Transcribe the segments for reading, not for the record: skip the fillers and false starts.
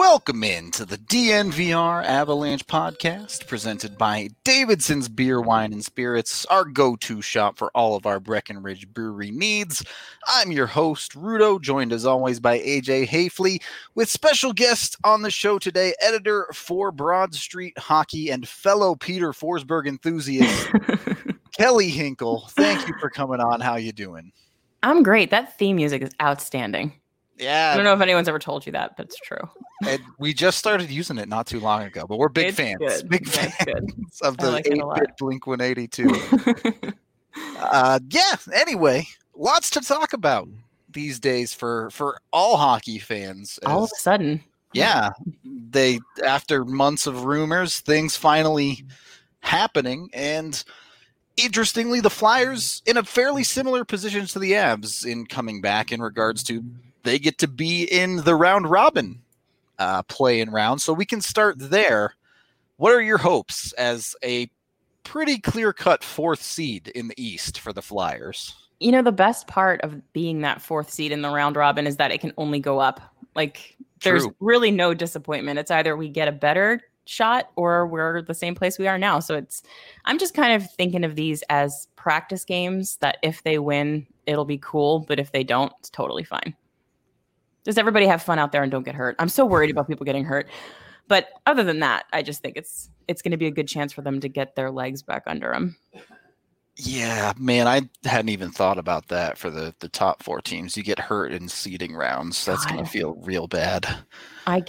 Welcome into the DNVR Avalanche podcast presented by Davidson's Beer, Wine, and Spirits, our go-to shop for all of our Breckenridge brewery needs. I'm your host, Rudo, joined as always by AJ Hafley, with special guest on the show today, editor for Broad Street Hockey and fellow Peter Forsberg enthusiast, Kelly Hinkle. Thank you for coming on. How you doing? I'm great. That theme music is outstanding. Yeah. I don't know if anyone's ever told you that, but it's true. And we just started using it not too long ago, but we're big fans. Good. Big That's fans good. of the like 8-bit Blink-182. Anyway, lots to talk about these days for all hockey fans. All of a sudden. Yeah. After months of rumors, things finally happening. And interestingly, the Flyers in a fairly similar position to the Avs in coming back in regards to they get to be in the round robin play-in round. So we can start there. What are your hopes as a pretty clear-cut fourth seed in the East for the Flyers? You know, the best part of being that fourth seed in the round robin is that it can only go up. Like, there's really no disappointment. It's either we get a better shot or we're the same place we are now. So I'm just kind of thinking of these as practice games that if they win, it'll be cool. But if they don't, it's totally fine. Just everybody have fun out there and don't get hurt. I'm so worried about people getting hurt. But other than that, I just think it's going to be a good chance for them to get their legs back under them. Yeah, man, I hadn't even thought about that for the top four teams. You get hurt in seeding rounds. That's going to feel real bad. I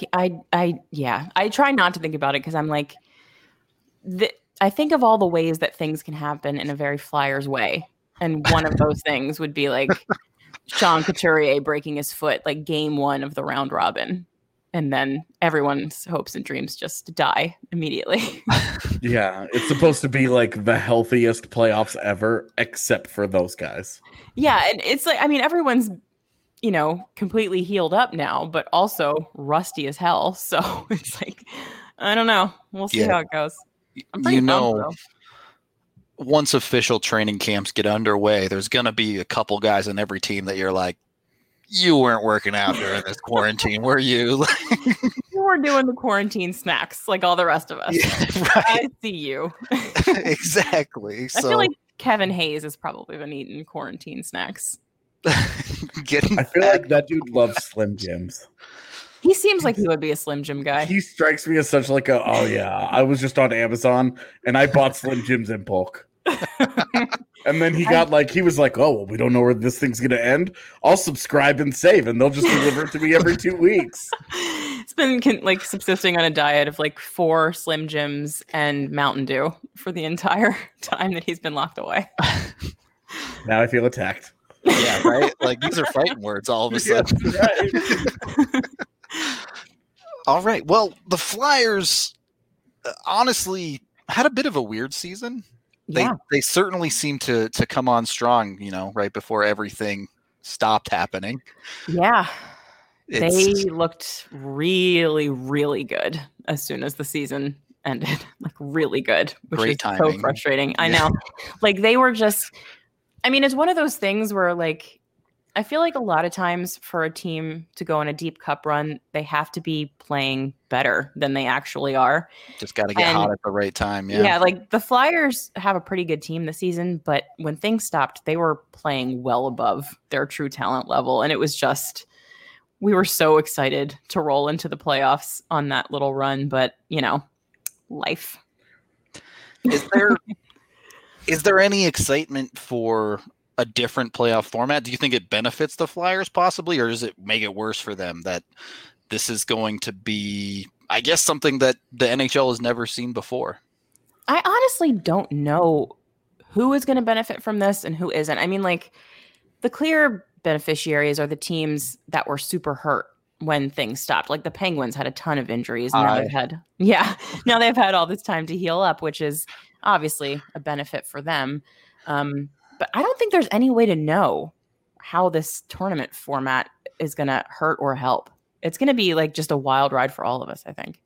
try not to think about it because I'm like, I think of all the ways that things can happen in a very Flyers way. And one of those things would be like Sean Couturier breaking his foot, like game one of the round robin. And then everyone's hopes and dreams just die immediately. Yeah, it's supposed to be like the healthiest playoffs ever, except for those guys. Yeah, and it's like, I mean, everyone's, completely healed up now, but also rusty as hell. So it's like, I don't know. We'll see how it goes. I'm pretty pumped, though. Once official training camps get underway, there's going to be a couple guys on every team that you're like, you weren't working out during this quarantine, were you? You were doing the quarantine snacks like all the rest of us. Yeah, right. I see you. Exactly. I feel like Kevin Hayes has probably been eating quarantine snacks. I feel like that dude loves Slim Jims. He seems like he would be a Slim Jim guy. He strikes me as such like I was just on Amazon and I bought Slim Jims in bulk. And then he was like, oh, well, we don't know where this thing's going to end. I'll subscribe and save, and they'll just deliver it to me every 2 weeks. It's been like subsisting on a diet of like 4 Slim Jims and Mountain Dew for the entire time that he's been locked away. Now I feel attacked. Yeah, right? Like, these are fighting words all of a sudden. Yeah, right. All right. Well, the Flyers, honestly, had a bit of a weird season. They certainly seem to come on strong, right before everything stopped happening. Yeah. They looked really, really good as soon as the season ended. Like, really good, which Great is timing. So frustrating. I know. Like, they were just, I mean, it's one of those things where, like, I feel like a lot of times for a team to go on a deep cup run, they have to be playing better than they actually are. Just got to get hot at the right time. Yeah. Yeah, like the Flyers have a pretty good team this season, but when things stopped, they were playing well above their true talent level. And it was just, we were so excited to roll into the playoffs on that little run, but life. Is there any excitement for a different playoff format? Do you think it benefits the Flyers possibly, or does it make it worse for them that this is going to be, I guess, something that the NHL has never seen before? I honestly don't know who is going to benefit from this and who isn't. I mean, like, the clear beneficiaries are the teams that were super hurt when things stopped. Like the Penguins had a ton of injuries. Now they've had all this time to heal up, which is obviously a benefit for them. But I don't think there's any way to know how this tournament format is going to hurt or help. It's going to be like just a wild ride for all of us, I think.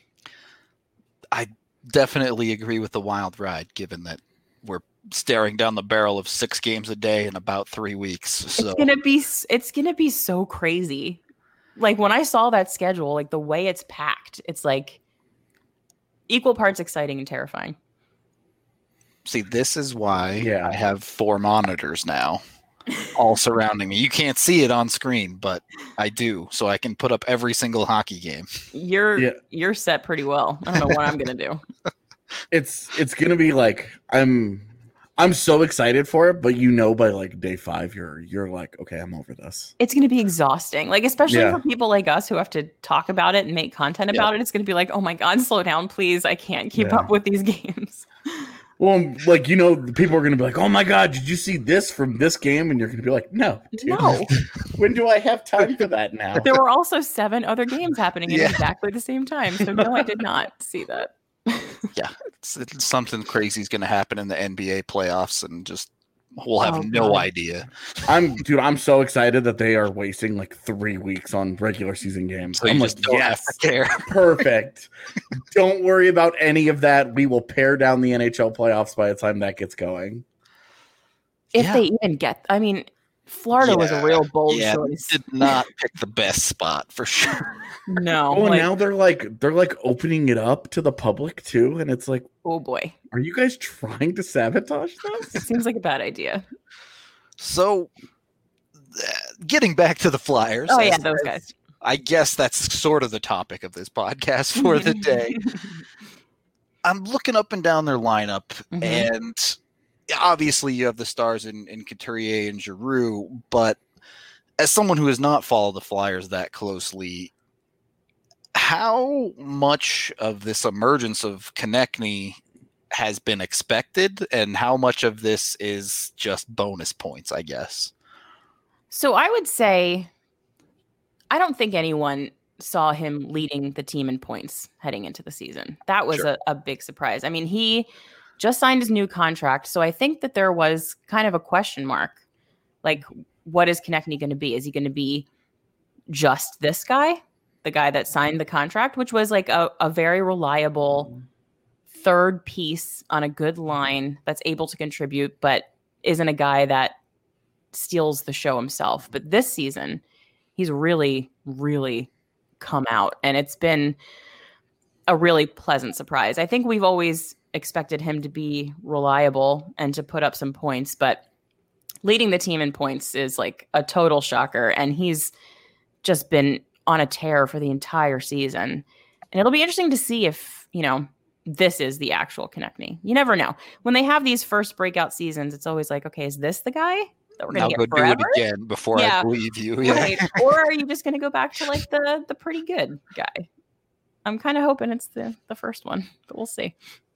I definitely agree with the wild ride, given that we're staring down the barrel of 6 games a day in about 3 weeks. So it's gonna be so crazy. Like when I saw that schedule, like the way it's packed, it's like equal parts exciting and terrifying. See, this is why Yeah. I have 4 monitors now, all surrounding me. You can't see it on screen, but I do, so I can put up every single hockey game. You're set pretty well. I don't know what I'm gonna do. It's gonna be like I'm so excited for it, but by like day 5, you're like, okay, I'm over this. It's gonna be exhausting, like especially Yeah. for people like us who have to talk about it and make content about it. It's gonna be like, oh my god, slow down, please. I can't keep up with these games. Well, like people are gonna be like, oh my god, did you see this from this game? And you're gonna be like, no, dude. No. When do I have time for that now? There were also 7 other games happening at exactly the same time. So no, I did not see that. Yeah, it's something crazy is going to happen in the NBA playoffs, and just we'll have no idea. I'm so excited that they are wasting like 3 weeks on regular season games. So I'm you like, just don't have to care. Perfect. Don't worry about any of that. We will pare down the NHL playoffs by the time that gets going. If they even get, I mean, Florida was a real bold choice. Did not pick the best spot for sure. No. Oh, now they're like opening it up to the public too, and it's like, oh boy, are you guys trying to sabotage this? It seems like a bad idea. So, getting back to the Flyers. Oh yeah, those guys. I guess that's sort of the topic of this podcast for the day. I'm looking up and down their lineup, and obviously you have the stars in Couturier and Giroux, but as someone who has not followed the Flyers that closely, how much of this emergence of Konechny has been expected, and how much of this is just bonus points, I guess? So I would say I don't think anyone saw him leading the team in points heading into the season. That was a big surprise. I mean, he just signed his new contract, so I think that there was kind of a question mark. Like, what is Konechny going to be? Is he going to be just this guy, the guy that signed the contract, which was like a very reliable third piece on a good line that's able to contribute, but isn't a guy that steals the show himself? But this season, he's really, really come out, and it's been a really pleasant surprise. I think we've always expected him to be reliable and to put up some points, but leading the team in points is like a total shocker, and he's just been on a tear for the entire season. And it'll be interesting to see if, this is the actual Konechny. You never know. When they have these first breakout seasons, it's always like, okay, is this the guy that we're going to get forever? Do it again before I believe you. Yeah. Right. Or are you just going to go back to like the pretty good guy? I'm kind of hoping it's the first one, but we'll see.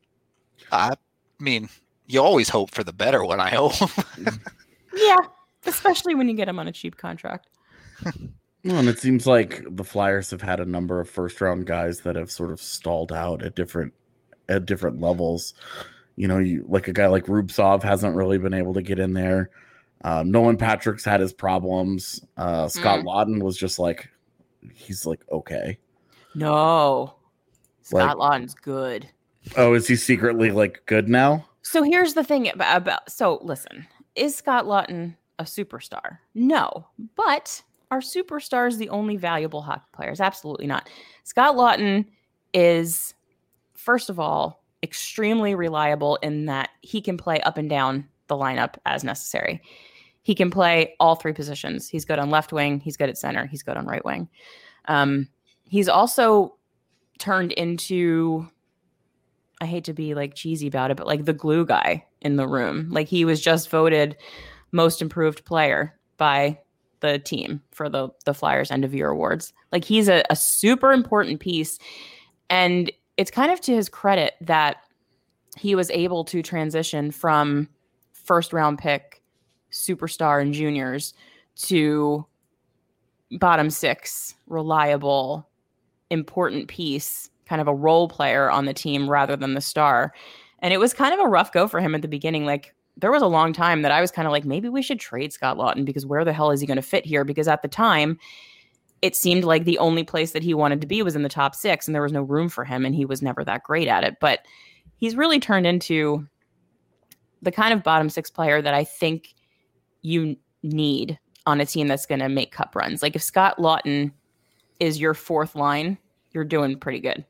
I mean, you always hope for the better one, I hope. Yeah, especially when you get him on a cheap contract. Well, and it seems like the Flyers have had a number of first-round guys that have sort of stalled out at different levels. Like a guy like Rubtsov hasn't really been able to get in there. Nolan Patrick's had his problems. Scott Laughton was just like, he's like, okay. No, Scott Laughton's good. Oh, is he secretly like good now? So here's the thing listen, is Scott Laughton a superstar? No, but are superstars the only valuable hockey players? Absolutely not. Scott Laughton is, first of all, extremely reliable in that he can play up and down the lineup as necessary. He can play all 3 positions. He's good on left wing. He's good at center. He's good on right wing. He's also turned into, I hate to be like cheesy about it, but like the glue guy in the room. Like he was just voted most improved player by the team for the Flyers end of year awards. Like he's a super important piece. And it's kind of to his credit that he was able to transition from first round pick superstar in juniors to bottom 6, reliable, important piece, kind of a role player on the team rather than the star. And it was kind of a rough go for him at the beginning. Like there was a long time that I was kind of like, maybe we should trade Scott Laughton because where the hell is he going to fit here? Because at the time, it seemed like the only place that he wanted to be was in the top 6 and there was no room for him and he was never that great at it. But he's really turned into the kind of bottom 6 player that I think you need on a team that's going to make cup runs. Like if Scott Laughton is your fourth line, you're doing pretty good.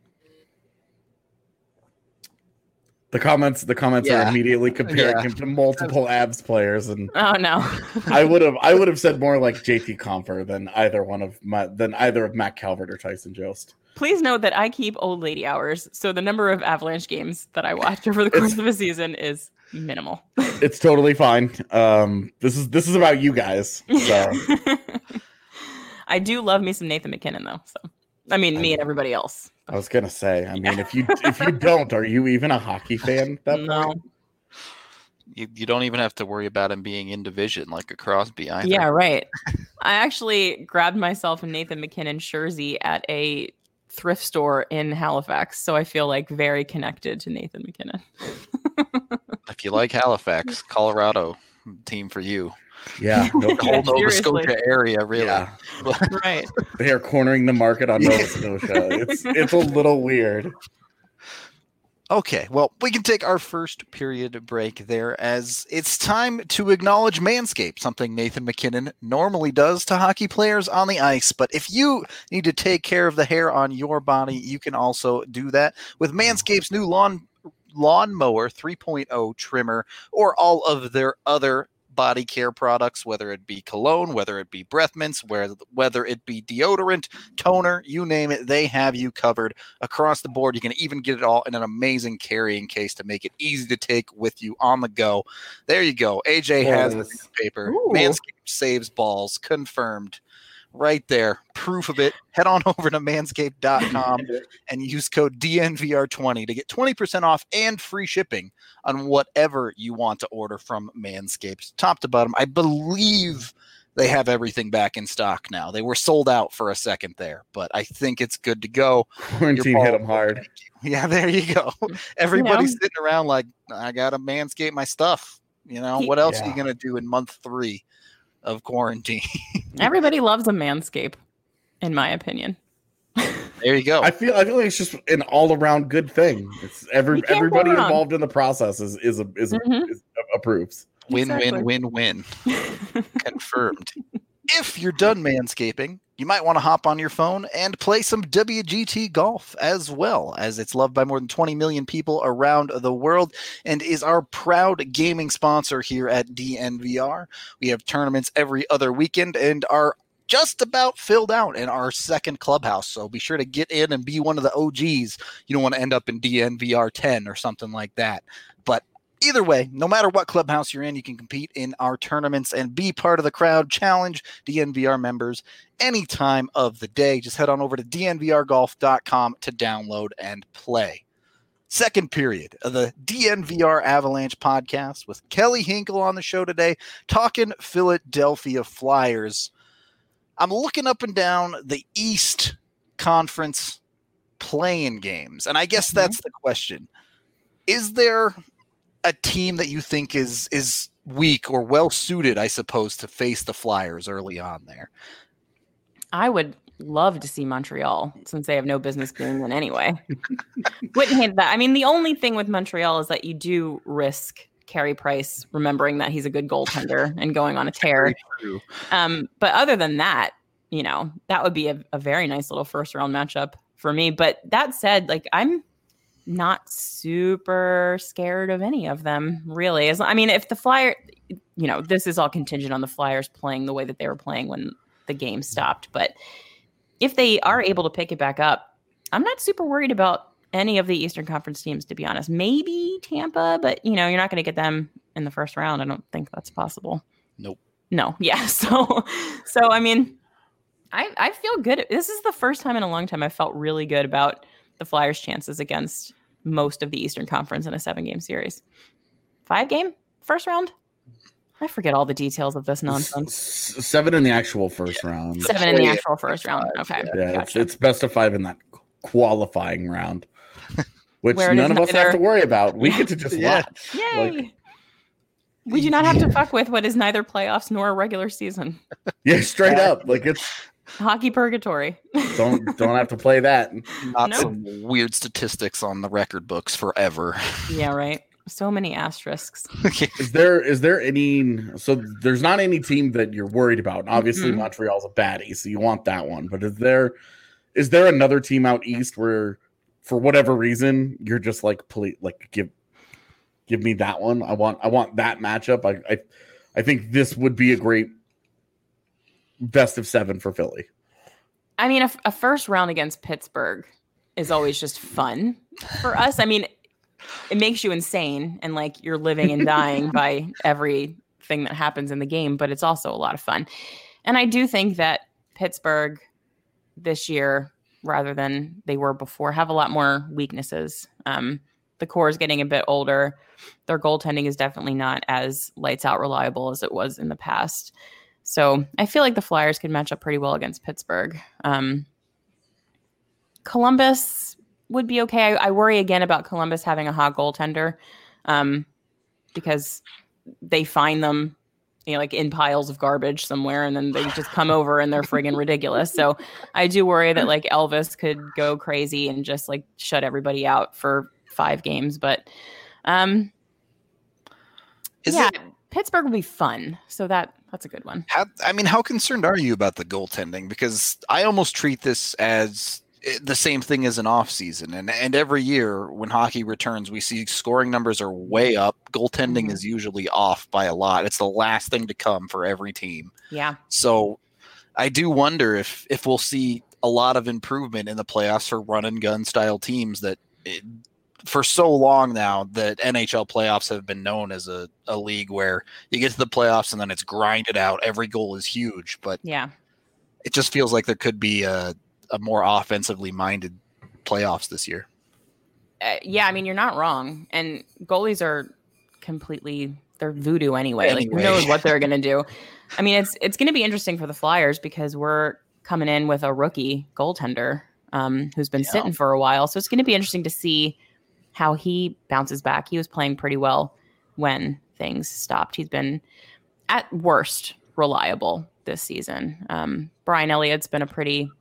The comments are immediately comparing him to multiple Avs players, and oh no, I would have said more like JT Compher than either of Matt Calvert or Tyson Jost. Please note that I keep old lady hours, so the number of Avalanche games that I watch over the course of a season is minimal. It's totally fine. This is about you guys. So. I do love me some Nathan MacKinnon though. So me and everybody else. I was gonna say, if you don't, are you even a hockey fan at that point? You don't even have to worry about him being in division like a Crosby either. Yeah, right. I actually grabbed myself a Nathan MacKinnon jersey at a thrift store in Halifax, so I feel like very connected to Nathan MacKinnon. If you like Halifax, Colorado team for you. Yeah, the whole Nova Scotia area, really. Yeah. Right. They are cornering the market on Nova Scotia. It's a little weird. Okay, well, we can take our first period break there as it's time to acknowledge Manscaped, something Nathan MacKinnon normally does to hockey players on the ice. But if you need to take care of the hair on your body, you can also do that with Manscaped's new Lawnmower 3.0 trimmer or all of their other body care products, whether it be cologne, whether it be breath mints, whether it be deodorant, toner, you name it, they have you covered across the board. You can even get it all in an amazing carrying case to make it easy to take with you on the go. There you go. AJ has the paper. Manscaped saves balls. Confirmed. Right there. Proof of it. Head on over to manscaped.com and use code DNVR20 to get 20% off and free shipping on whatever you want to order from Manscaped. Top to bottom, I believe they have everything back in stock now. They were sold out for a second there, but I think it's good to go. Quarantine hit them hard. Yeah, there you go. Everybody's sitting around like, I got to Manscape my stuff. What else are you going to do in month 3? Of quarantine? Everybody loves a Manscape, in my opinion. There you go. I feel like it's just an all around good thing. It's everybody involved in the process is approves. Win. Confirmed. If you're done manscaping, you might want to hop on your phone and play some WGT golf as well, as it's loved by more than 20 million people around the world and is our proud gaming sponsor here at DNVR. We have tournaments every other weekend and are just about filled out in our second clubhouse, so be sure to get in and be one of the OGs. You don't want to end up in DNVR 10 or something like that. But either way, no matter what clubhouse you're in, you can compete in our tournaments and be part of the crowd. Challenge DNVR members any time of the day. Just head on over to dnvrgolf.com to download and play. Second period of the DNVR Avalanche podcast with Kelly Hinkle on the show today, talking Philadelphia Flyers. I'm looking up and down the East Conference play-in games, and I guess that's the question. Is there a team that you think is weak or well suited, I suppose, to face the Flyers early on there? I would love to see Montreal, since they have no business being in anyway. Wouldn't hate that. I mean, the only thing with Montreal is that you do risk Carey Price remembering that he's a good goaltender and going on a tear. But other than that, that would be a very nice little first round matchup for me. But that said, I'm not super scared of any of them, really. If the Flyers, this is all contingent on the Flyers playing the way that they were playing when the game stopped. But if they are able to pick it back up, I'm not super worried about any of the Eastern Conference teams, to be honest. Maybe Tampa, but you're not going to get them in the first round. I don't think that's possible. Nope. No. Yeah. So I feel good. This is the first time in a long time I felt really good about the Flyers' chances against most of the Eastern Conference in a 7-game series. 5-game first round? I forget all the details of this nonsense. 7 in the actual first round. 7 in the actual first round. Okay. Yeah, gotcha. It's best of 5 in that qualifying round, which none of us have to worry about. We get to just watch. Yay! We do not have to fuck with what is neither playoffs nor a regular season. Yeah, straight up. It's hockey purgatory. Don't have to play that. Not some weird statistics on the record books forever. Yeah, right. So many asterisks. Is there any? So there's not any team that you're worried about. Obviously, Montreal's a baddie, so you want that one. But is there is there another team out east where, for whatever reason, you're just like, please, like give me that one. I want that matchup. I think this would be a great best of 7 for Philly. I mean, a first round against Pittsburgh is always just fun for us. I mean, it makes you insane and like you're living and dying by everything that happens in the game, but it's also a lot of fun. And I do think that Pittsburgh this year, rather than they were before, have a lot more weaknesses. The core is getting a bit older. Their goaltending is definitely not as lights out reliable as it was in the past. So I feel like the Flyers could match up pretty well against Pittsburgh. Columbus would be okay. I worry again about Columbus having a hot goaltender because they find them, like in piles of garbage somewhere, and then they just come over and they're friggin' ridiculous. So I do worry that like Elvis could go crazy and just like shut everybody out for 5 games. But Pittsburgh will be fun. So that's a good one. How concerned are you about the goaltending? Because I almost treat this as the same thing as an off season, and every year when hockey returns, we see scoring numbers are way up. Goaltending is usually off by a lot. It's the last thing to come for every team. Yeah. So I do wonder if we'll see a lot of improvement in the playoffs for run and gun style teams that for so long now that NHL playoffs have been known as a league where you get to the playoffs and then it's grinded out. Every goal is huge, but yeah, it just feels like there could be a more offensively minded playoffs this year. Yeah, I mean, you're not wrong. And goalies are they're voodoo anyway. Like, who knows what they're going to do? I mean, it's going to be interesting for the Flyers because we're coming in with a rookie goaltender who's been sitting for a while. So it's going to be interesting to see how he bounces back. He was playing pretty well when things stopped. He's been, at worst, reliable this season. Brian Elliott's been a pretty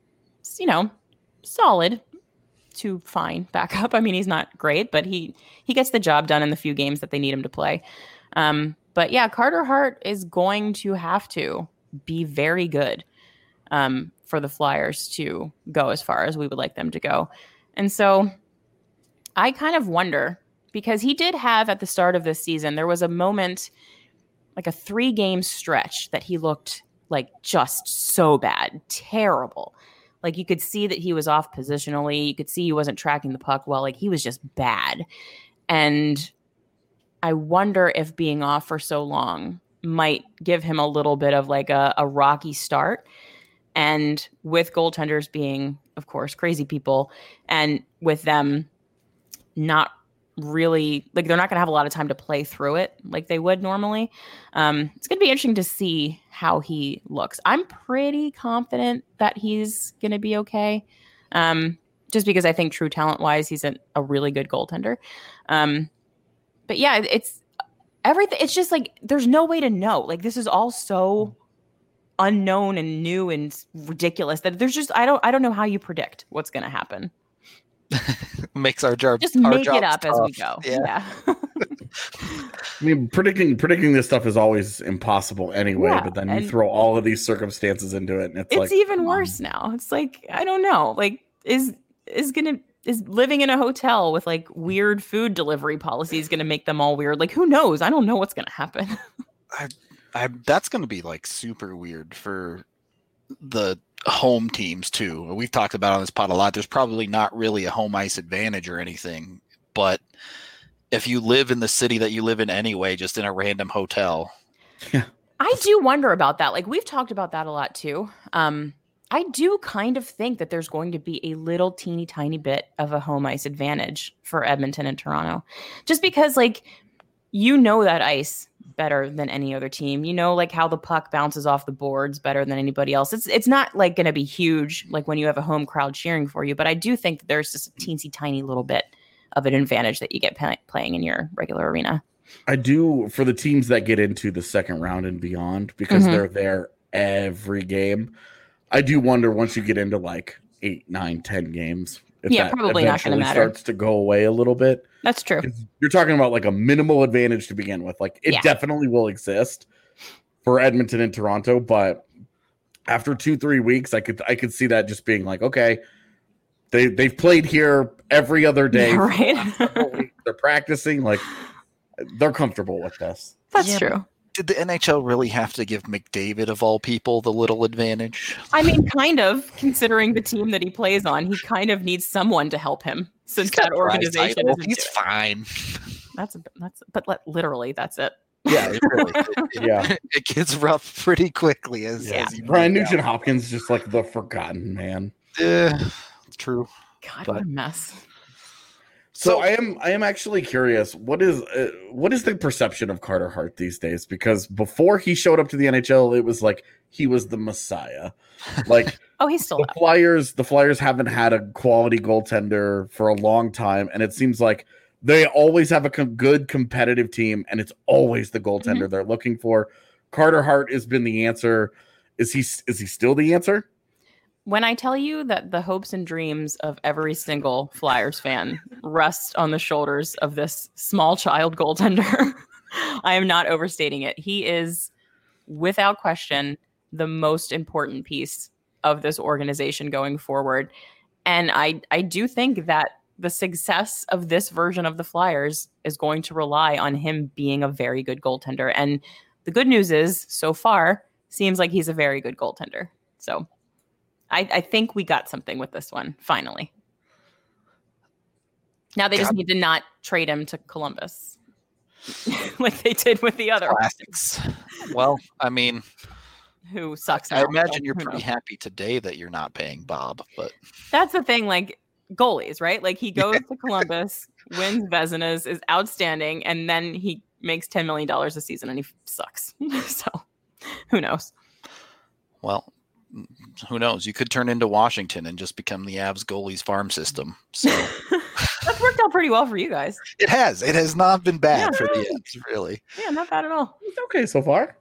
solid to fine backup. I mean, he's not great, but he gets the job done in the few games that they need him to play. But yeah, Carter Hart is going to have to be very good for the Flyers to go as far as we would like them to go. And so I kind of wonder, because he did have at the start of this season, there was a moment, like a 3-game stretch that he looked like just so bad, terrible. Like you could see that he was off positionally. You could see he wasn't tracking the puck well. Like he was just bad. And I wonder if being off for so long might give him a little bit of like a rocky start. And with goaltenders being, of course, crazy people, and with them not really, like they're not going to have a lot of time to play through it like they would normally. It's going to be interesting to see how he looks. I'm pretty confident that he's going to be okay. Just because I think true talent wise, he's a really good goaltender. But yeah, it's everything. It's just like, there's no way to know. Like this is all so unknown and new and ridiculous that there's just, I don't know how you predict what's going to happen. Makes our job just make it up tough. As we go. Yeah. I mean, predicting this stuff is always impossible anyway, but then you throw all of these circumstances into it, and it's like even worse now. It's like, I don't know. Like is living in a hotel with like weird food delivery policies going to make them all weird? Like who knows? I don't know what's going to happen. That's going to be like super weird for the home teams too. We've talked about on this pod a lot. There's probably not really a home ice advantage or anything, but if you live in the city that you live in anyway, just in a random hotel. Yeah. I do wonder about that. Like we've talked about that a lot too. I do kind of think that there's going to be a little teeny tiny bit of a home ice advantage for Edmonton and Toronto, just because like, that ice better than any other team, like how the puck bounces off the boards better than anybody else. It's not like going to be huge, like when you have a home crowd cheering for you, but I do think that there's just a teensy tiny little bit of an advantage that you get playing in your regular arena. I do for the teams that get into the second round and beyond, because they're there every game. I do wonder once you get into like 8, 9, 10 games, if that probably not going to matter. Starts to go away a little bit. That's true. You're talking about like a minimal advantage to begin with. Like it definitely will exist for Edmonton and Toronto, but after 2-3 weeks, I could see that just being like, okay, they've played here every other day. Right. They're practicing, like they're comfortable with this. That's true. Did the NHL really have to give McDavid, of all people, the little advantage? I mean, kind of, considering the team that he plays on, he kind of needs someone to help him since that organization is. He's fine. Literally, that's it. Yeah, it really, Yeah. It gets rough pretty quickly. As Brian Nugent Hopkins, just like the forgotten man. True. God, what a mess. So I am actually curious. What is the perception of Carter Hart these days? Because before he showed up to the NHL, it was like he was the Messiah. Like, he's still the Flyers haven't had a quality goaltender for a long time, and it seems like they always have a good competitive team, and it's always the goaltender they're looking for. Carter Hart has been the answer. Is he still the answer? When I tell you that the hopes and dreams of every single Flyers fan rest on the shoulders of this small child goaltender, I am not overstating it. He is, without question, the most important piece of this organization going forward. And I do think that the success of this version of the Flyers is going to rely on him being a very good goaltender. And the good news is, so far, seems like he's a very good goaltender. So I think we got something with this one, finally. Now they just need to not trade him to Columbus like they did with the other classics. Well, I mean, who sucks now, I imagine you're pretty happy today that you're not paying Bob, but that's the thing, like goalies, right? Like he goes to Columbus, wins Vezinas, is outstanding, and then he makes $10 million a season and he sucks. So who knows? Well, who knows? You could turn into Washington and just become the Avs goalies farm system. So that's worked out pretty well for you guys. It has. It has not been bad for the Avs, really. Yeah, not bad at all. It's okay so far.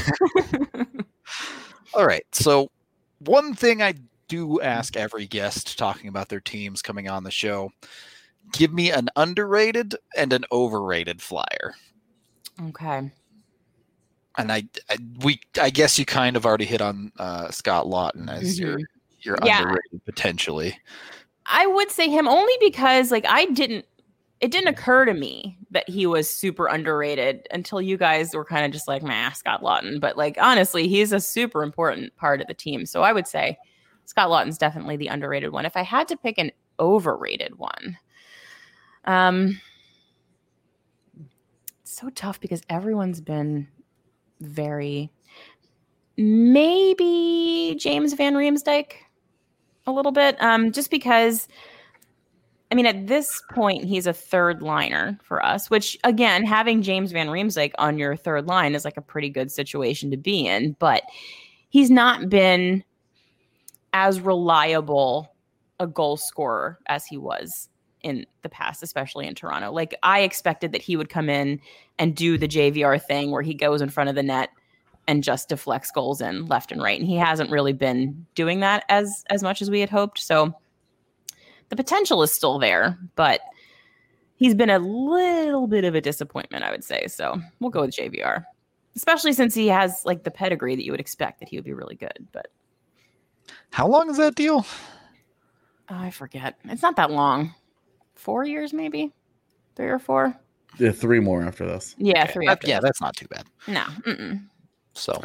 All right. So one thing I do ask every guest talking about their teams coming on the show, give me an underrated and an overrated Flyer. Okay. And I guess you kind of already hit on Scott Laughton as your underrated potentially. I would say him only because like it didn't occur to me that he was super underrated until you guys were kind of just like, Scott Laughton. But like honestly, he's a super important part of the team. So I would say Scott Laughton's definitely the underrated one. If I had to pick an overrated one, it's so tough because everyone's been maybe James Van Riemsdyk a little bit. Just because, I mean, at this point, he's a third liner for us, which again, having James Van Riemsdyk on your third line is like a pretty good situation to be in, but he's not been as reliable a goal scorer as he was in the past, especially in Toronto. Like I expected that he would come in and do the JVR thing where he goes in front of the net and just deflects goals in left and right. And he hasn't really been doing that as much as we had hoped. So the potential is still there, but he's been a little bit of a disappointment, I would say. So we'll go with JVR, especially since he has like the pedigree that you would expect that he would be really good. But how long is that deal? I forget. It's not that long. 4 years, maybe 3 or 4. Yeah, 3 more after this. Yeah, 3. That's not too bad. No. So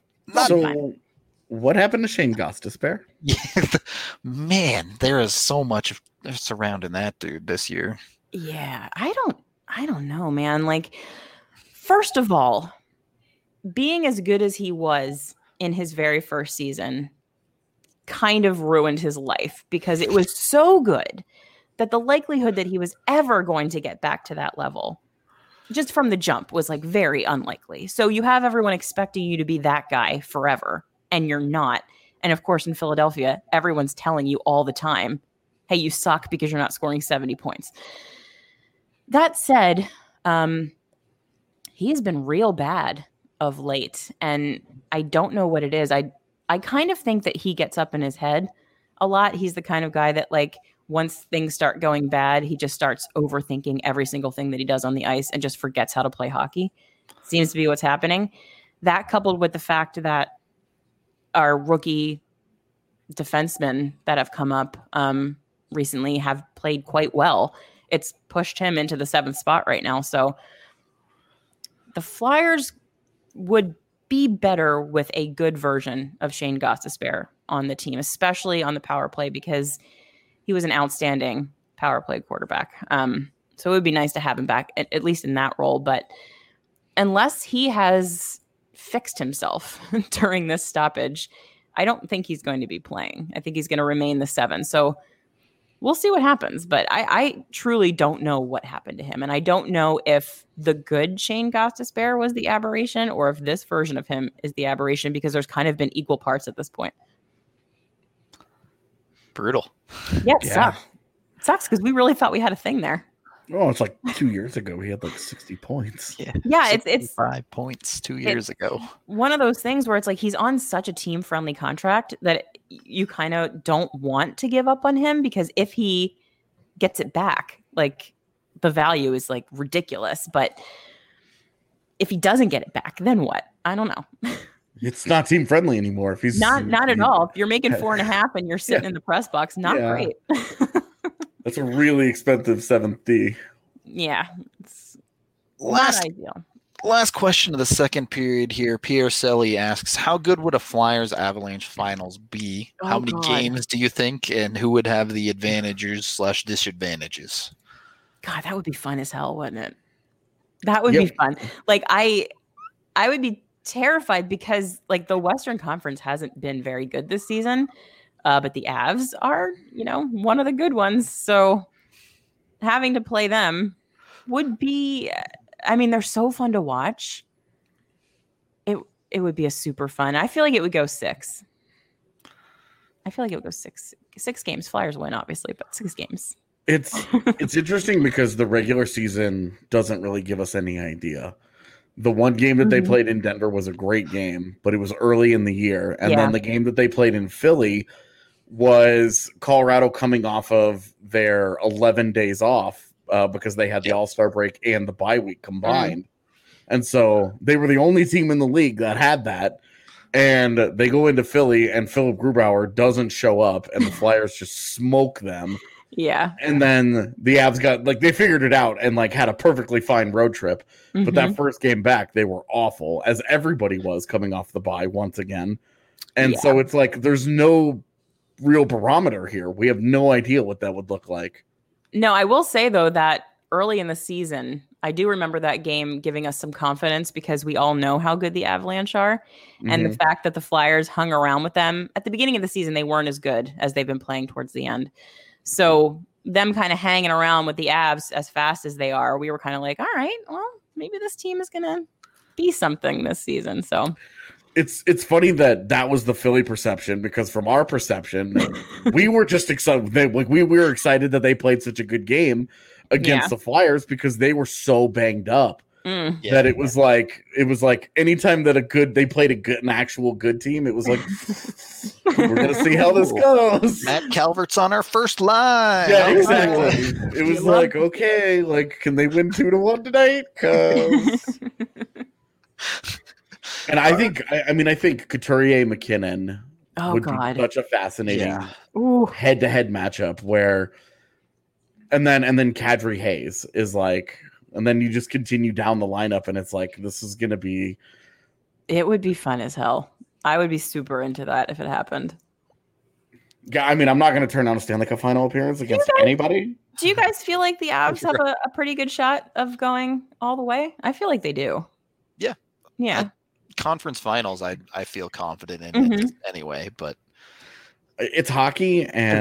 what happened to Shane Gostisbehere? Yeah, man, there is so much surrounding that dude this year. Yeah, I don't know, man. Like, first of all, being as good as he was in his very first season kind of ruined his life because it was so good that the likelihood that he was ever going to get back to that level just from the jump was like very unlikely. So you have everyone expecting you to be that guy forever and you're not. And of course, in Philadelphia, everyone's telling you all the time, hey, you suck because you're not scoring 70 points. That said, he's been real bad of late. And I don't know what it is. I kind of think that he gets up in his head a lot. He's the kind of guy that like, once things start going bad, he just starts overthinking every single thing that he does on the ice and just forgets how to play hockey. Seems to be what's happening. That coupled with the fact that our rookie defensemen that have come up recently have played quite well. It's pushed him into the 7th spot right now. So the Flyers would be better with a good version of Shane Gostisbehere on the team, especially on the power play, because he was an outstanding power play quarterback. So it would be nice to have him back, at least in that role. But unless he has fixed himself during this stoppage, I don't think he's going to be playing. I think he's going to remain the 7. So we'll see what happens. But I truly don't know what happened to him. And I don't know if the good Shane Gostisbehere was the aberration or if this version of him is the aberration, because there's kind of been equal parts at this point. Brutal. Yeah, it sucks. It sucks because we really thought we had a thing there. Oh, it's like 2 years ago. He had like 60 points. Yeah, it's 5 points 2 years ago. One of those things where it's like he's on such a team-friendly contract that you kind of don't want to give up on him, because if he gets it back, like the value is like ridiculous. But if he doesn't get it back, then what? I don't know. It's not team-friendly anymore. If he's not at all. If you're making 4.5 and you're sitting in the press box, not great. That's a really expensive 7th D. Yeah. It's not ideal. Last question of the second period here. Pierre Selly asks, how good would a Flyers Avalanche finals be? How many games do you think? And who would have the advantages/disadvantages? God, that would be fun as hell, wouldn't it? That would be fun. Like I would be terrified because like the Western Conference hasn't been very good this season. But the Avs are, one of the good ones. So having to play them would be, they're so fun to watch. It would be a super fun. I feel like it would go 6. I feel like it would go 6 games. Flyers win, obviously, but 6 games. It's interesting because the regular season doesn't really give us any idea. The one game that they played in Denver was a great game, but it was early in the year. And then the game that they played in Philly was Colorado coming off of their 11 days off because they had the All-Star break and the bye week combined. And so they were the only team in the league that had that. And they go into Philly and Philip Grubauer doesn't show up and the Flyers just smoke them. Yeah. And then the Avs got they figured it out and had a perfectly fine road trip. But that first game back, they were awful, as everybody was coming off the bye once again. And so it's like there's no real barometer here. We have no idea what that would look like. No, I will say though that early in the season, I do remember that game giving us some confidence because we all know how good the Avalanche are. And the fact that the Flyers hung around with them at the beginning of the season, they weren't as good as they've been playing towards the end. So them kind of hanging around with the Avs as fast as they are, we were kind of like, all right, well, maybe this team is going to be something this season. So it's funny that was the Philly perception, because from our perception, we were just excited. We were excited that they played such a good game against the Flyers because they were so banged up that it was like anytime that they played an actual good team, it was like we're gonna see how this goes. Matt Calvert's on our first line. Yeah, exactly. It was like, okay, can they win 2-1 tonight? And I think Couturier McKinnon would be such a fascinating head-to-head matchup where, and then Kadri Hayes is and then you just continue down the lineup and it's like, this is going to be. It would be fun as hell. I would be super into that if it happened. Yeah, I'm not going to turn down a Stanley Cup final appearance against anybody. Do you guys feel like the Avs have a pretty good shot of going all the way? I feel like they do. Yeah. Yeah. Conference finals, I feel confident in it anyway, but it's hockey and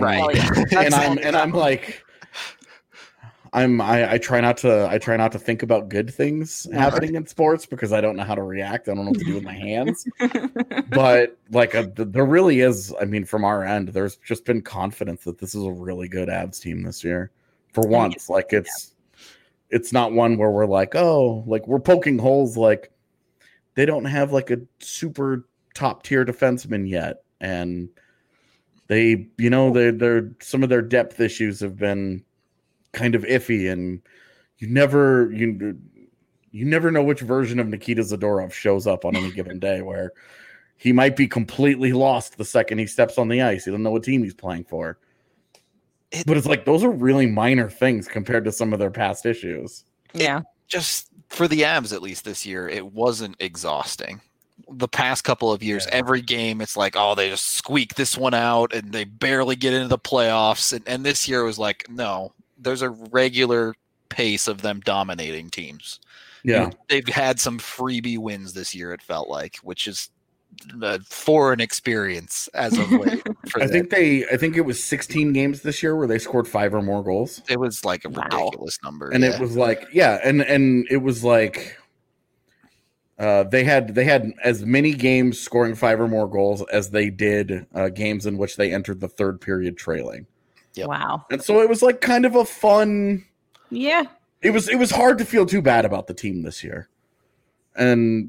I try not to think about good things happening in sports because I don't know how to react. I don't know what to do with my hands. But there really is, from our end, there's just been confidence that this is a really good Avs team this year. For once, it's not one where we're we're poking holes. They don't have a super top tier defenseman yet, and they, they're some of their depth issues have been kind of iffy, and you never know which version of Nikita Zadorov shows up on any given day. Where he might be completely lost the second he steps on the ice. He doesn't know what team he's playing for. But it's like those are really minor things compared to some of their past issues. Yeah. Just for the Avs, at least this year, it wasn't exhausting. The past couple of years, every game, it's like, oh, they just squeak this one out and they barely get into the playoffs. And this year was like, no, there's a regular pace of them dominating teams. Yeah. They've had some freebie wins this year, it felt like, which is a foreign experience as of late. I think it was 16 games this year where they scored 5 or more goals. It was like a ridiculous number. And it was like, and it was like they had as many games scoring 5 or more goals as they did games in which they entered the third period trailing. Yep. Wow. And so it was like kind of a fun. Yeah. It was hard to feel too bad about the team this year. And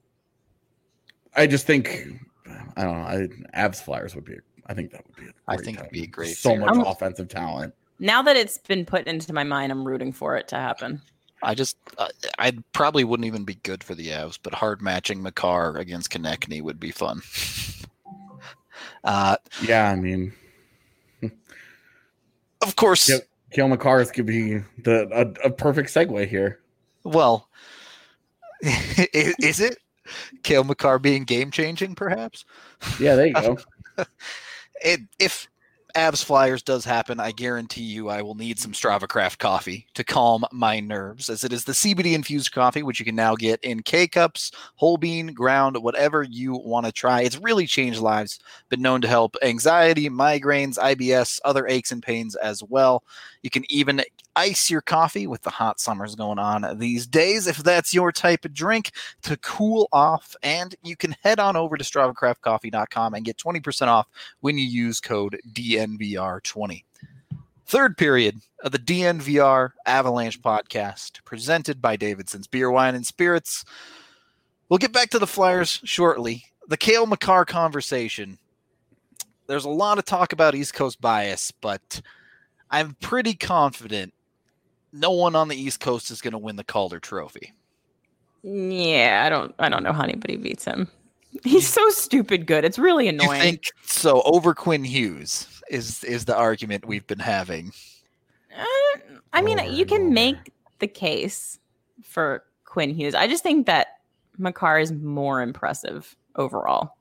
I just think, I don't know, Avs Flyers would be, I think that would be a great it'd be great. So much offensive talent. Now that it's been put into my mind, I'm rooting for it to happen. I probably wouldn't even be good for the Avs, but hard matching Makar against Konechny would be fun. Yeah, I mean, of course, Cale Makar could be a perfect segue here. Well, is it Cale Makar being game changing? Perhaps. Yeah, there you go. If Avs Flyers does happen, I guarantee you I will need some Strava Craft coffee to calm my nerves, as it is the CBD infused coffee, which you can now get in K-Cups, whole bean, ground, whatever you want to try. It's really changed lives, been known to help anxiety, migraines, IBS, other aches and pains as well. You can even ice your coffee with the hot summers going on these days, if that's your type of drink, to cool off. And you can head on over to StravaCraftCoffee.com and get 20% off when you use code DNVR20. Third period of the DNVR Avalanche podcast, presented by Davidson's Beer, Wine, and Spirits. We'll get back to the Flyers shortly. The Cale Makar conversation. There's a lot of talk about East Coast bias, but I'm pretty confident no one on the East Coast is going to win the Calder Trophy. Yeah, I don't know how anybody beats him. He's so stupid good. It's really annoying. You think so? Over Quinn Hughes is the argument we've been having. I mean, you can make the case for Quinn Hughes. I just think that Makar is more impressive overall.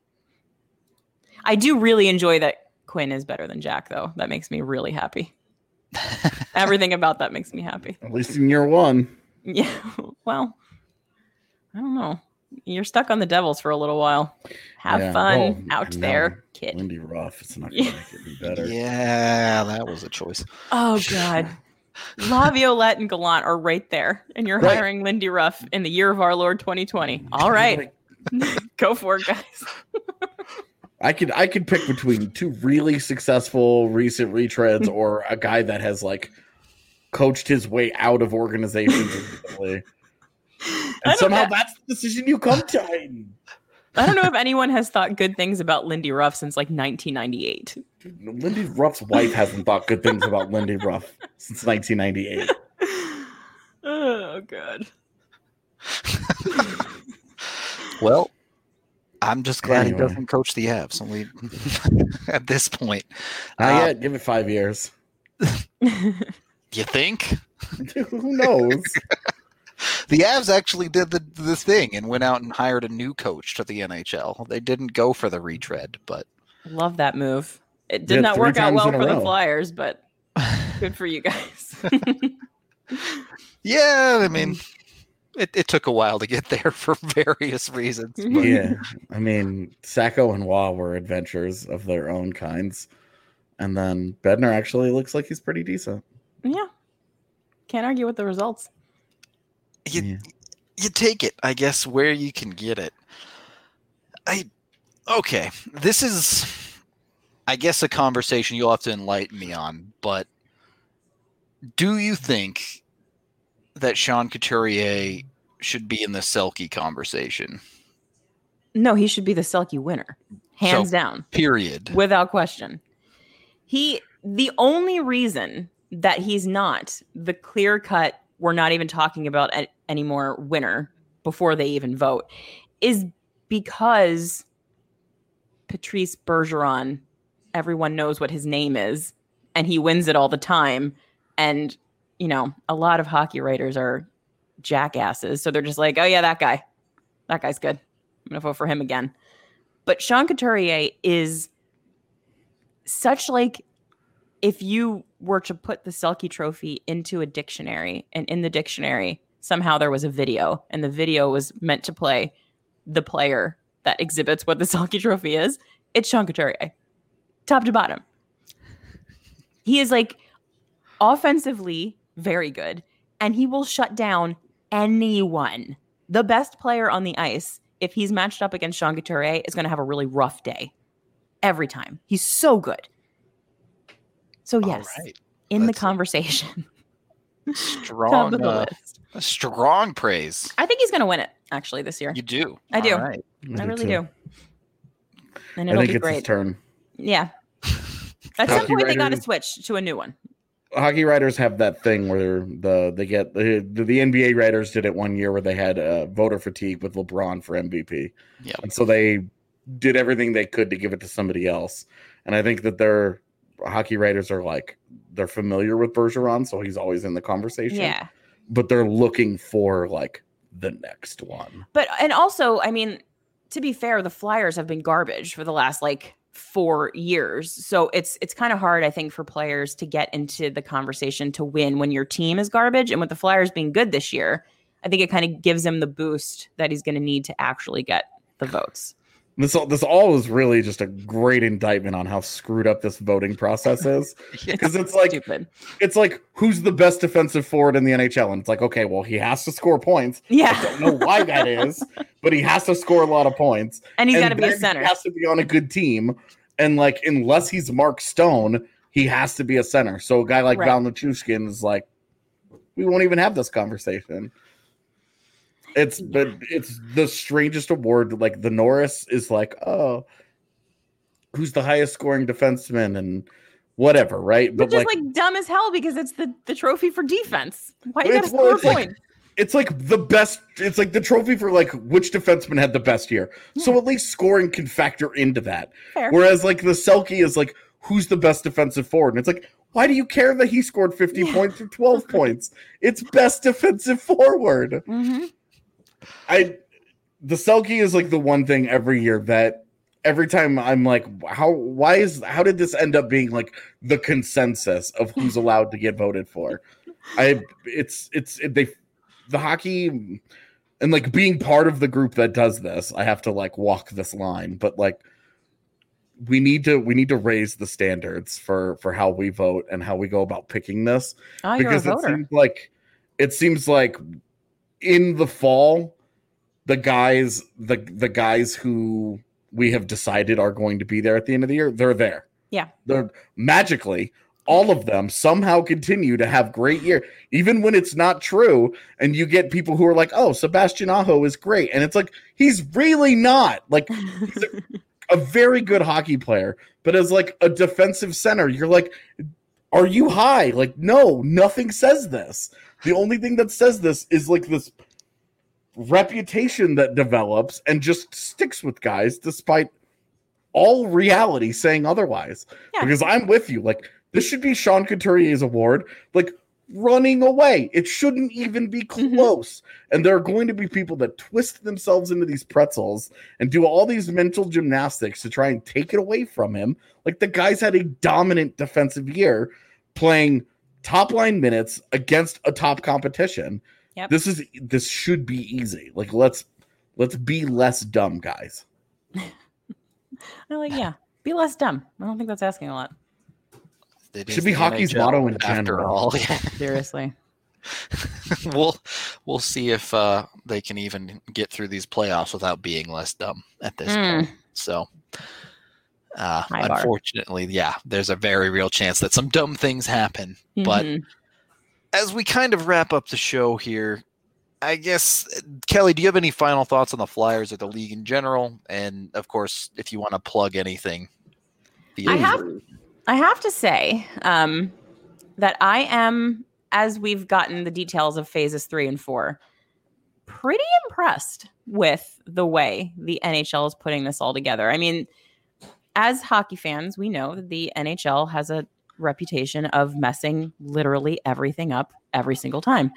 I do really enjoy that Quinn is better than Jack, though. That makes me really happy. Everything about that makes me happy. At least in year one. Yeah. Well, I don't know. You're stuck on the Devils for a little while. Have fun out there, kid. Lindy Ruff. It's not going to make it any better. Yeah, that was a choice. Oh, God. Laviolette and Gallant are right there. And you're hiring Lindy Ruff in the year of our Lord 2020. All right. Go for it, guys. I could pick between two really successful recent retreads or a guy that has like coached his way out of organizations recently. And somehow that's the decision you come to. I don't know if anyone has thought good things about Lindy Ruff since like 1998. Lindy Ruff's wife hasn't thought good things about Lindy Ruff since 1998. Oh, God. Well, I'm just glad he doesn't coach the Avs. Only at this point. Not yet. Give it 5 years. You think? Who knows? The Avs actually did the thing and went out and hired a new coach to the NHL. They didn't go for the retread, but love that move. It did not work out well for the Flyers, but good for you guys. Yeah, I mean, it took a while to get there for various reasons. But. Yeah, I mean, Sacco and Waugh were adventures of their own kinds, and then Bednar actually looks like he's pretty decent. Yeah, can't argue with the results. You take it, I guess, where you can get it. Okay, this is, I guess, a conversation you'll have to enlighten me on, but do you think that Sean Couturier should be in the Selke conversation? No, he should be the Selke winner. Hands down. Period. Without question. The only reason that he's not the clear-cut, we're not even talking about anymore winner before they even vote, is because Patrice Bergeron, everyone knows what his name is, and he wins it all the time. And, a lot of hockey writers are jackasses. So they're just like, oh, yeah, that guy's good. I'm going to vote for him again. But Sean Couturier is such like, if you were to put the Selke trophy into a dictionary, and in the dictionary, somehow there was a video, and the video was meant to play the player that exhibits what the Selke trophy is, it's Sean Couturier. Top to bottom. He is like offensively very good, and he will shut down anyone. The best player on the ice, if he's matched up against Sean Couturier, is going to have a really rough day every time. He's so good. So yes, in the conversation. Strong, strong praise. I think he's going to win it, actually, this year. You do? I do. Right. I really do. And I it'll think be it's great. his turn. Yeah. At some point, they got to switch to a new one. Hockey writers have that thing where the NBA writers did it one year where they had voter fatigue with LeBron for MVP. Yeah. And so they did everything they could to give it to somebody else. And I think that their hockey writers are like, they're familiar with Bergeron, so he's always in the conversation. Yeah. But they're looking for like the next one. And also, I mean, to be fair, the Flyers have been garbage for the last 4 years. So it's kind of hard, I think, for players to get into the conversation to win when your team is garbage. And with the Flyers being good this year, I think it kind of gives him the boost that he's going to need to actually get the votes. This all is really just a great indictment on how screwed up this voting process is. Because it's like stupid. It's like, who's the best defensive forward in the NHL? And it's like, okay, well, he has to score points. Yeah. I don't know why that is, but he has to score a lot of points. And he's got to be a center. He has to be on a good team. And unless he's Mark Stone, he has to be a center. So a guy like Val Nichushkin is like, we won't even have this conversation. It's the strangest award. Like the Norris is like, oh, who's the highest scoring defenseman and whatever, right? Which is dumb as hell because it's the trophy for defense. Why you gotta score points? It's like the best. It's like the trophy for which defenseman had the best year. Yeah. So at least scoring can factor into that. Fair. Whereas the Selke is who's the best defensive forward, and it's why do you care that he scored 50 points or 12 points? It's best defensive forward. Mm-hmm. The Selke is the one thing every year that every time I'm like, how did this end up being the consensus of who's allowed to get voted for? The hockey and being part of the group that does this, I have to walk this line, but we need to raise the standards for how we vote and how we go about picking this. Oh, because you're a voter. It seems like in the fall, the guys who we have decided are going to be there at the end of the year, they're there. Yeah. They're magically, all of them somehow continue to have great year, even when it's not true. And you get people who are like, oh, Sebastian Aho is great. And it's he's really not. He's a very good hockey player, but as a defensive center, you're are you high? No, nothing says this. The only thing that says this is this reputation that develops and just sticks with guys despite all reality saying otherwise. Yeah. Because I'm with you. This should be Sean Couturier's award. Running away. It shouldn't even be close. Mm-hmm. And there are going to be people that twist themselves into these pretzels and do all these mental gymnastics to try and take it away from him. The guy's had a dominant defensive year playing top line minutes against a top competition. Yep. This should be easy. Let's be less dumb, guys. Be less dumb. I don't think that's asking a lot. It should be hockey's motto in general. Seriously. We'll see if they can even get through these playoffs without being less dumb at this point. So unfortunately, there's a very real chance that some dumb things happen. Mm-hmm. But as we kind of wrap up the show here, I guess, Kelly, do you have any final thoughts on the Flyers or the league in general? And of course, if you want to plug anything. I have to say that I am, as we've gotten the details of phases 3 and 4, pretty impressed with the way the NHL is putting this all together. I mean, as hockey fans, we know that the NHL has a reputation of messing literally everything up every single time.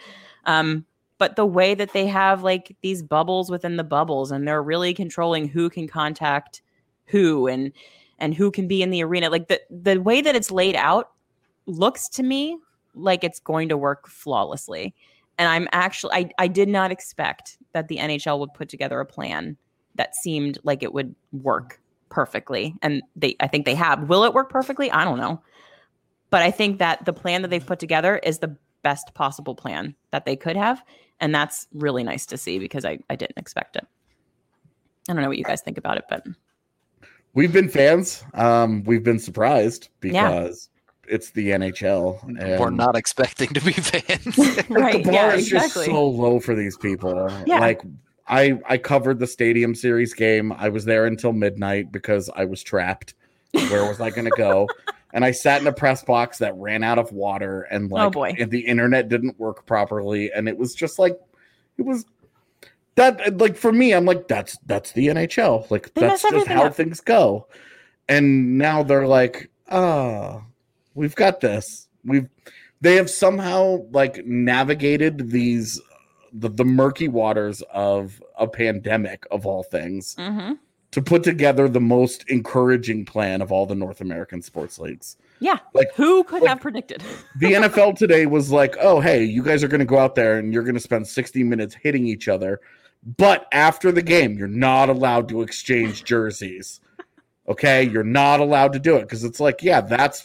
But the way that they have like these bubbles within the bubbles, and they're really controlling who can contact who and who can be in the arena, like the way that it's laid out looks to me like it's going to work flawlessly. And I'm actually, I did not expect that the NHL would put together a plan that seemed like it would work perfectly. And I think they have. Will it work perfectly? I don't know. But I think that the plan that they've put together is the best possible plan that they could have. And that's really nice to see because I didn't expect it. I don't know what you guys think about it, but we've been fans. We've been surprised because it's the NHL. And we're not expecting to be fans. Right. The bar Yeah, is just exactly. so low for these people. Yeah. Like I covered the Stadium Series game. I was there until midnight because I was trapped. Where was I going to go? And I sat in a press box that ran out of water, and like, Oh, boy. and the internet didn't work properly, and it was just like, it was that like for me, I'm like, that's the NHL. Like They that's mess just everything how up. things go. And now they're like, oh, we've got this. They have somehow like navigated these the murky waters of a pandemic of all things Mm-hmm. to put together the most encouraging plan of all the North American sports leagues. Yeah. Like Who could like- have predicted? the NFL today was like, oh, hey, you guys are going to go out there and you're going to spend 60 minutes hitting each other. But after the game, you're not allowed to exchange jerseys. Okay. You're not allowed to do it. Cause it's like, yeah, that's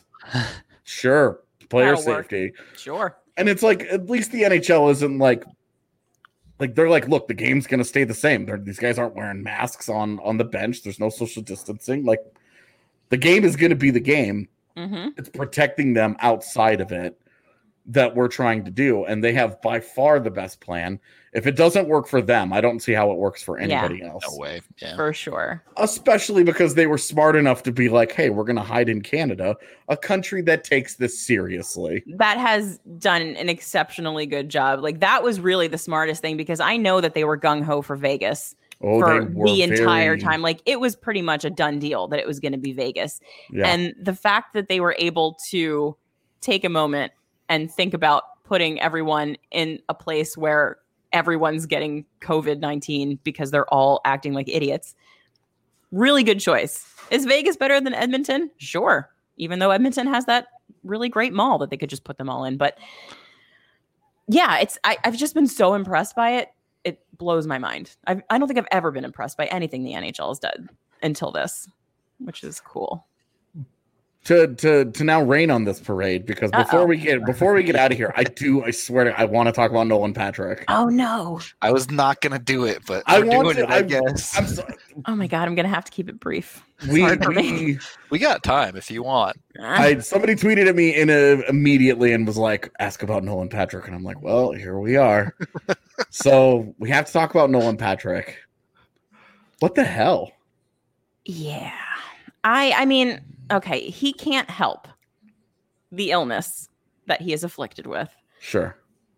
sure. Player That'll work. safety. Sure. And it's like, at least the NHL isn't like they're like, look, the game's going to stay the same. These guys aren't wearing masks on the bench. There's no social distancing. Like the game is going to be the game. Mm-hmm. It's protecting them outside of it that we're trying to do. And they have by far the best plan. If it doesn't work for them, I don't see how it works for anybody else. No way. Yeah. For sure. Especially because they were smart enough to be like, hey, we're going to hide in Canada, a country that takes this seriously. That has done an exceptionally good job. Like that was really the smartest thing because I know that they were gung-ho for Vegas Oh, for they were the entire very- time. Like it was pretty much a done deal that it was going to be Vegas. Yeah. And the fact that they were able to take a moment and think about putting everyone in a place where everyone's getting COVID-19 because they're all acting like idiots. Really good choice. Is Vegas better than Edmonton? Sure. Even though Edmonton has that really great mall that they could just put them all in. But yeah, I've just been so impressed by it. It blows my mind. I don't think I've ever been impressed by anything the NHL has done until this, which is cool. To now rain on this parade, because before Uh-oh. we get out of here, I swear I want to talk about Nolan Patrick. Oh no. I was not going to do it, but I we're want doing to- it, I guess. I'm sorry. Oh my God. I'm going to have to keep it brief. We, hard for me. We got time if you want. somebody tweeted at me immediately and was like, ask about Nolan Patrick. And I'm like, well, here we are. So we have to talk about Nolan Patrick. What the hell? Yeah. I mean, okay, he can't help the illness that he is afflicted with. Sure.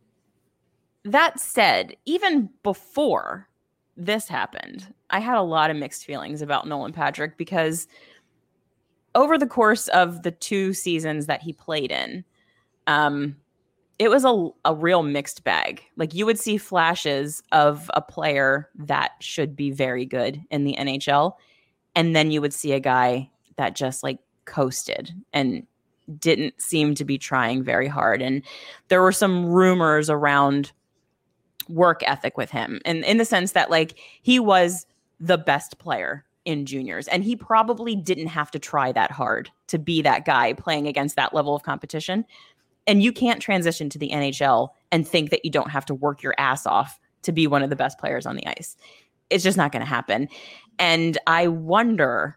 That said, even before this happened, I had a lot of mixed feelings about Nolan Patrick because over the course of the 2 seasons that he played in, it was a real mixed bag. Like you would see flashes of a player that should be very good in the NHL, and then you would see a guy that just like coasted and didn't seem to be trying very hard. And there were some rumors around work ethic with him, and in the sense that like he was the best player in juniors and he probably didn't have to try that hard to be that guy playing against that level of competition. And you can't transition to the NHL and think that you don't have to work your ass off to be one of the best players on the ice. It's just not going to happen. And I wonder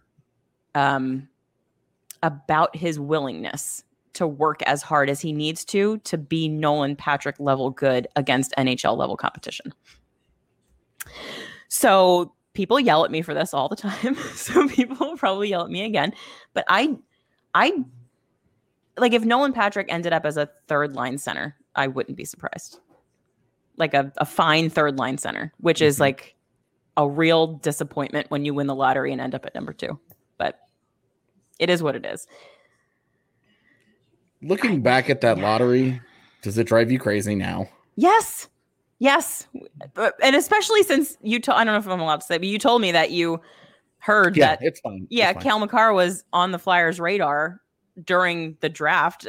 about his willingness to work as hard as he needs to be Nolan Patrick level good against NHL level competition. So people yell at me for this all the time. So people will probably yell at me again. But I like if Nolan Patrick ended up as a third line center, I wouldn't be surprised. Like a fine third line center, which is like a real disappointment when you win the lottery and end up at number 2. But it is what it is. Looking back at that lottery, does it drive you crazy now? Yes. And especially since I don't know if I'm allowed to say, but you told me that you heard that. It's fine. Yeah, it's fine. Cale Makar was on the Flyers' radar during the draft.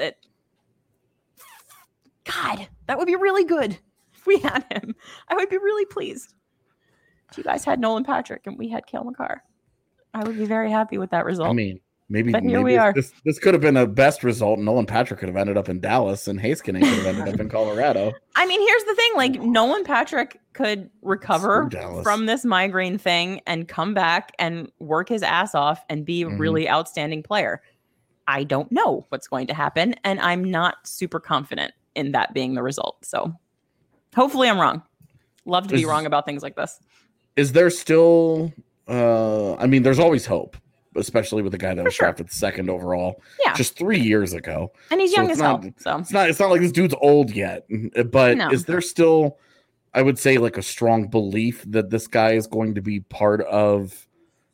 God, that would be really good if we had him. I would be really pleased. If you guys had Nolan Patrick and we had Cale Makar, I would be very happy with that result. I mean, maybe we are. This could have been a best result. Nolan Patrick could have ended up in Dallas, and Heiskanen could have ended up in Colorado. I mean, here's the thing: like Nolan Patrick could recover from this migraine thing and come back and work his ass off and be a really outstanding player. I don't know what's going to happen, and I'm not super confident in that being the result. So hopefully I'm wrong. Love to be wrong about things like this. Is there still I mean, there's always hope, especially with a guy that was drafted second overall just 3 years ago. And he's young as hell. So it's not like this dude's old yet. But is there still, I would say, like a strong belief that this guy is going to be part of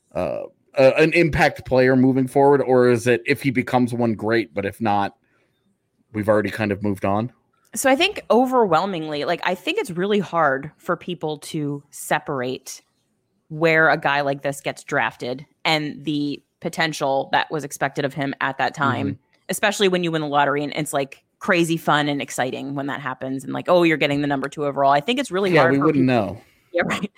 an impact player moving forward? Or is it, if he becomes one, great, but if not, we've already kind of moved on? So I think overwhelmingly, like, I think it's really hard for people to separate where a guy like this gets drafted and the potential that was expected of him at that time, especially when you win the lottery and it's like crazy fun and exciting when that happens. And like, oh, you're getting the number 2 overall. I think it's really hard. Yeah, we wouldn't know. Yeah, right.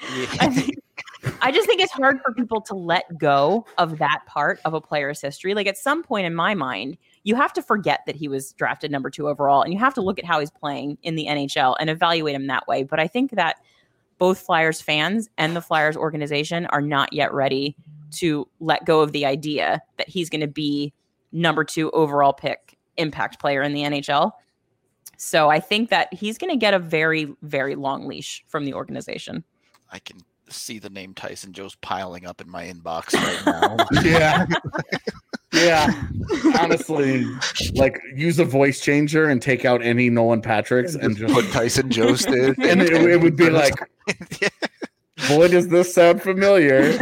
I just think it's hard for people to let go of that part of a player's history. Like at some point in my mind, you have to forget that he was drafted number 2 overall, and you have to look at how he's playing in the NHL and evaluate him that way. But I think that both Flyers fans and the Flyers organization are not yet ready to let go of the idea that he's going to be number 2 overall pick impact player in the NHL. So I think that he's going to get a very, very long leash from the organization. I can see the name Tyson Joe's piling up in my inbox right now. Yeah. Yeah. Honestly, like use a voice changer and take out any Nolan Patrick's and just put Tyson Joe's in. And it would be like, boy, does this sound familiar.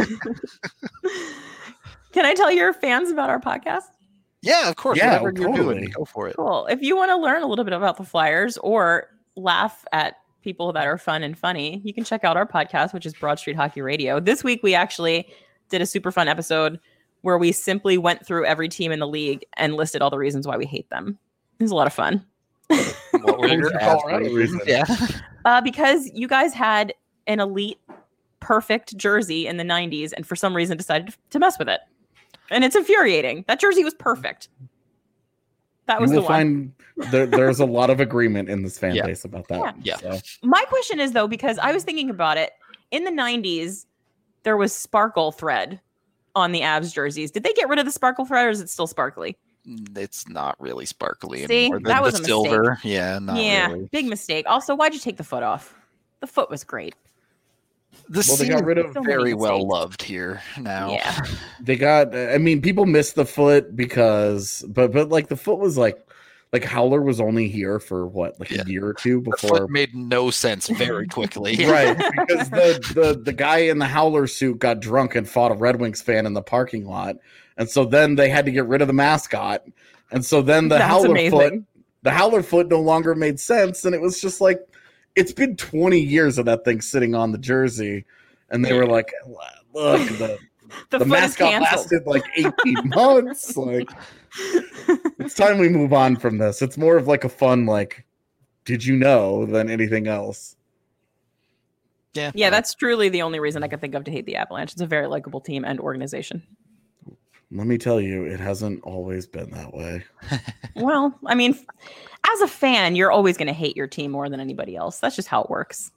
Can I tell your fans about our podcast? Yeah, of course. Yeah, whatever you're doing, go for it. Cool. If you want to learn a little bit about the Flyers or laugh at people that are fun and funny, you can check out our podcast, which is Broad Street Hockey Radio. This week, we actually did a super fun episode where we simply went through every team in the league and listed all the reasons why we hate them. It was a lot of fun. What were your Colorado reasons? Yeah. Because you guys had an elite, perfect jersey in the 90s and for some reason decided to mess with it. And it's infuriating. That jersey was perfect. That was the one. There's a lot of agreement in this fan base about that. Yeah. So. My question is, though, because I was thinking about it, in the 90s, there was sparkle thread on the Avs jerseys. Did they get rid of the sparkle thread, or is it still sparkly? It's not really sparkly anymore. That was a silver. Mistake. Yeah, really. Big mistake. Also, why'd you take the foot off? The foot was great. They got rid of very well loved here now. Yeah. They got, I mean, people miss the foot because, but like the foot was like Howler was only here for what, like a year or two before. The foot made no sense very quickly. Right. Because the guy in the Howler suit got drunk and fought a Red Wings fan in the parking lot. And so then they had to get rid of the mascot. And so then the Howler foot no longer made sense. And it was just like, it's been 20 years of that thing sitting on the jersey, and they were like, "Look, the mascot lasted like 18 months. Like, it's time we move on from this. It's more of like a fun, like, did you know, than anything else." Yeah, that's truly the only reason I could think of to hate the Avalanche. It's a very likable team and organization. Let me tell you, it hasn't always been that way. Well, I mean, as a fan, you're always going to hate your team more than anybody else. That's just how it works.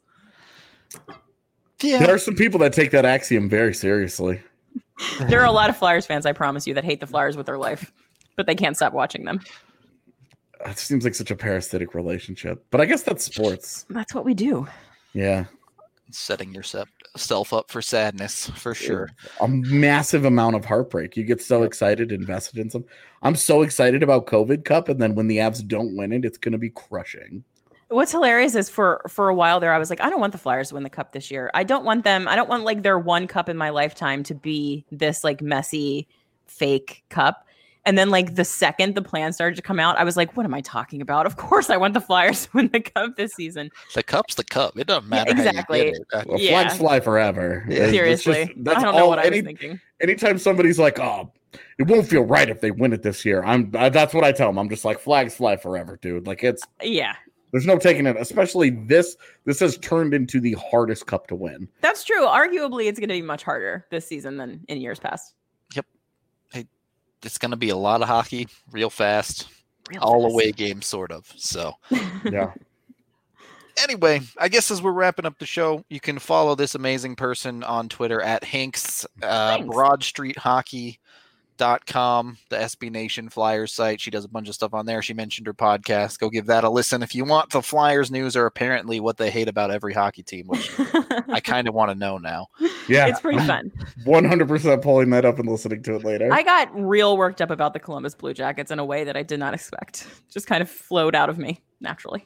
Yeah. There are some people that take that axiom very seriously. There are a lot of Flyers fans, I promise you, that hate the Flyers with their life, but they can't stop watching them. It seems like such a parasitic relationship, but I guess that's sports. That's what we do. Yeah. Setting yourself up for sadness, for sure. A massive amount of heartbreak. You get so excited, invested in some. I'm so excited about COVID Cup, and then when the Avs don't win it, it's going to be crushing. What's hilarious is for a while there, I was like, I don't want the Flyers to win the Cup this year. I don't want like their one cup in my lifetime to be this like messy, fake cup. And then like the second the plan started to come out, I was like, what am I talking about? Of course I want the Flyers to win the cup this season. The cup's the cup. It doesn't matter. Exactly. Well, flags fly forever. Yeah. Seriously. That's I don't know what I was thinking. Anytime somebody's like, oh, it won't feel right if they win it this year. That's what I tell them. I'm just like, flags fly forever, dude. Like there's no taking it, especially this has turned into the hardest cup to win. That's true. Arguably, it's going to be much harder this season than in years past. Yep. It's going to be a lot of hockey real fast, all away games, sort of. So, yeah. Anyway, I guess as we're wrapping up the show, you can follow this amazing person on Twitter at Hanks, BroadStreetHockey.com, the SB Nation Flyers site. She does a bunch of stuff on there. She mentioned her podcast. Go give that a listen if you want. The Flyers news are apparently what they hate about every hockey team, which I kind of want to know now. Yeah, it's pretty fun. 100% pulling that up and listening to it later. I got real worked up about the Columbus Blue Jackets in a way that I did not expect. Just kind of flowed out of me naturally.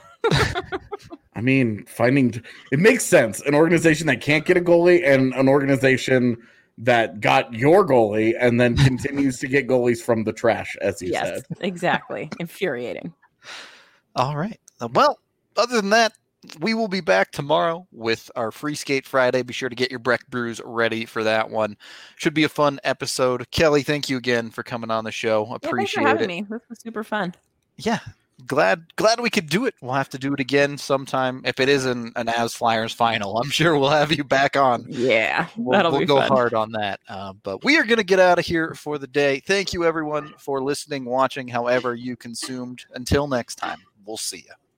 I mean, it makes sense. An organization that can't get a goalie and an organization that got your goalie and then continues to get goalies from the trash, as you said. Yes, exactly. Infuriating. All right. Well, other than that, we will be back tomorrow with our Free Skate Friday. Be sure to get your Breck brews ready for that one. Should be a fun episode. Kelly, thank you again for coming on the show. Appreciate thanks for having me. This was super fun. Yeah. Glad we could do it. We'll have to do it again sometime. If it is an Avs Flyers final, I'm sure we'll have you back on. Yeah, we'll go hard on that. But we are going to get out of here for the day. Thank you, everyone, for listening, watching, however you consumed. Until next time, we'll see you.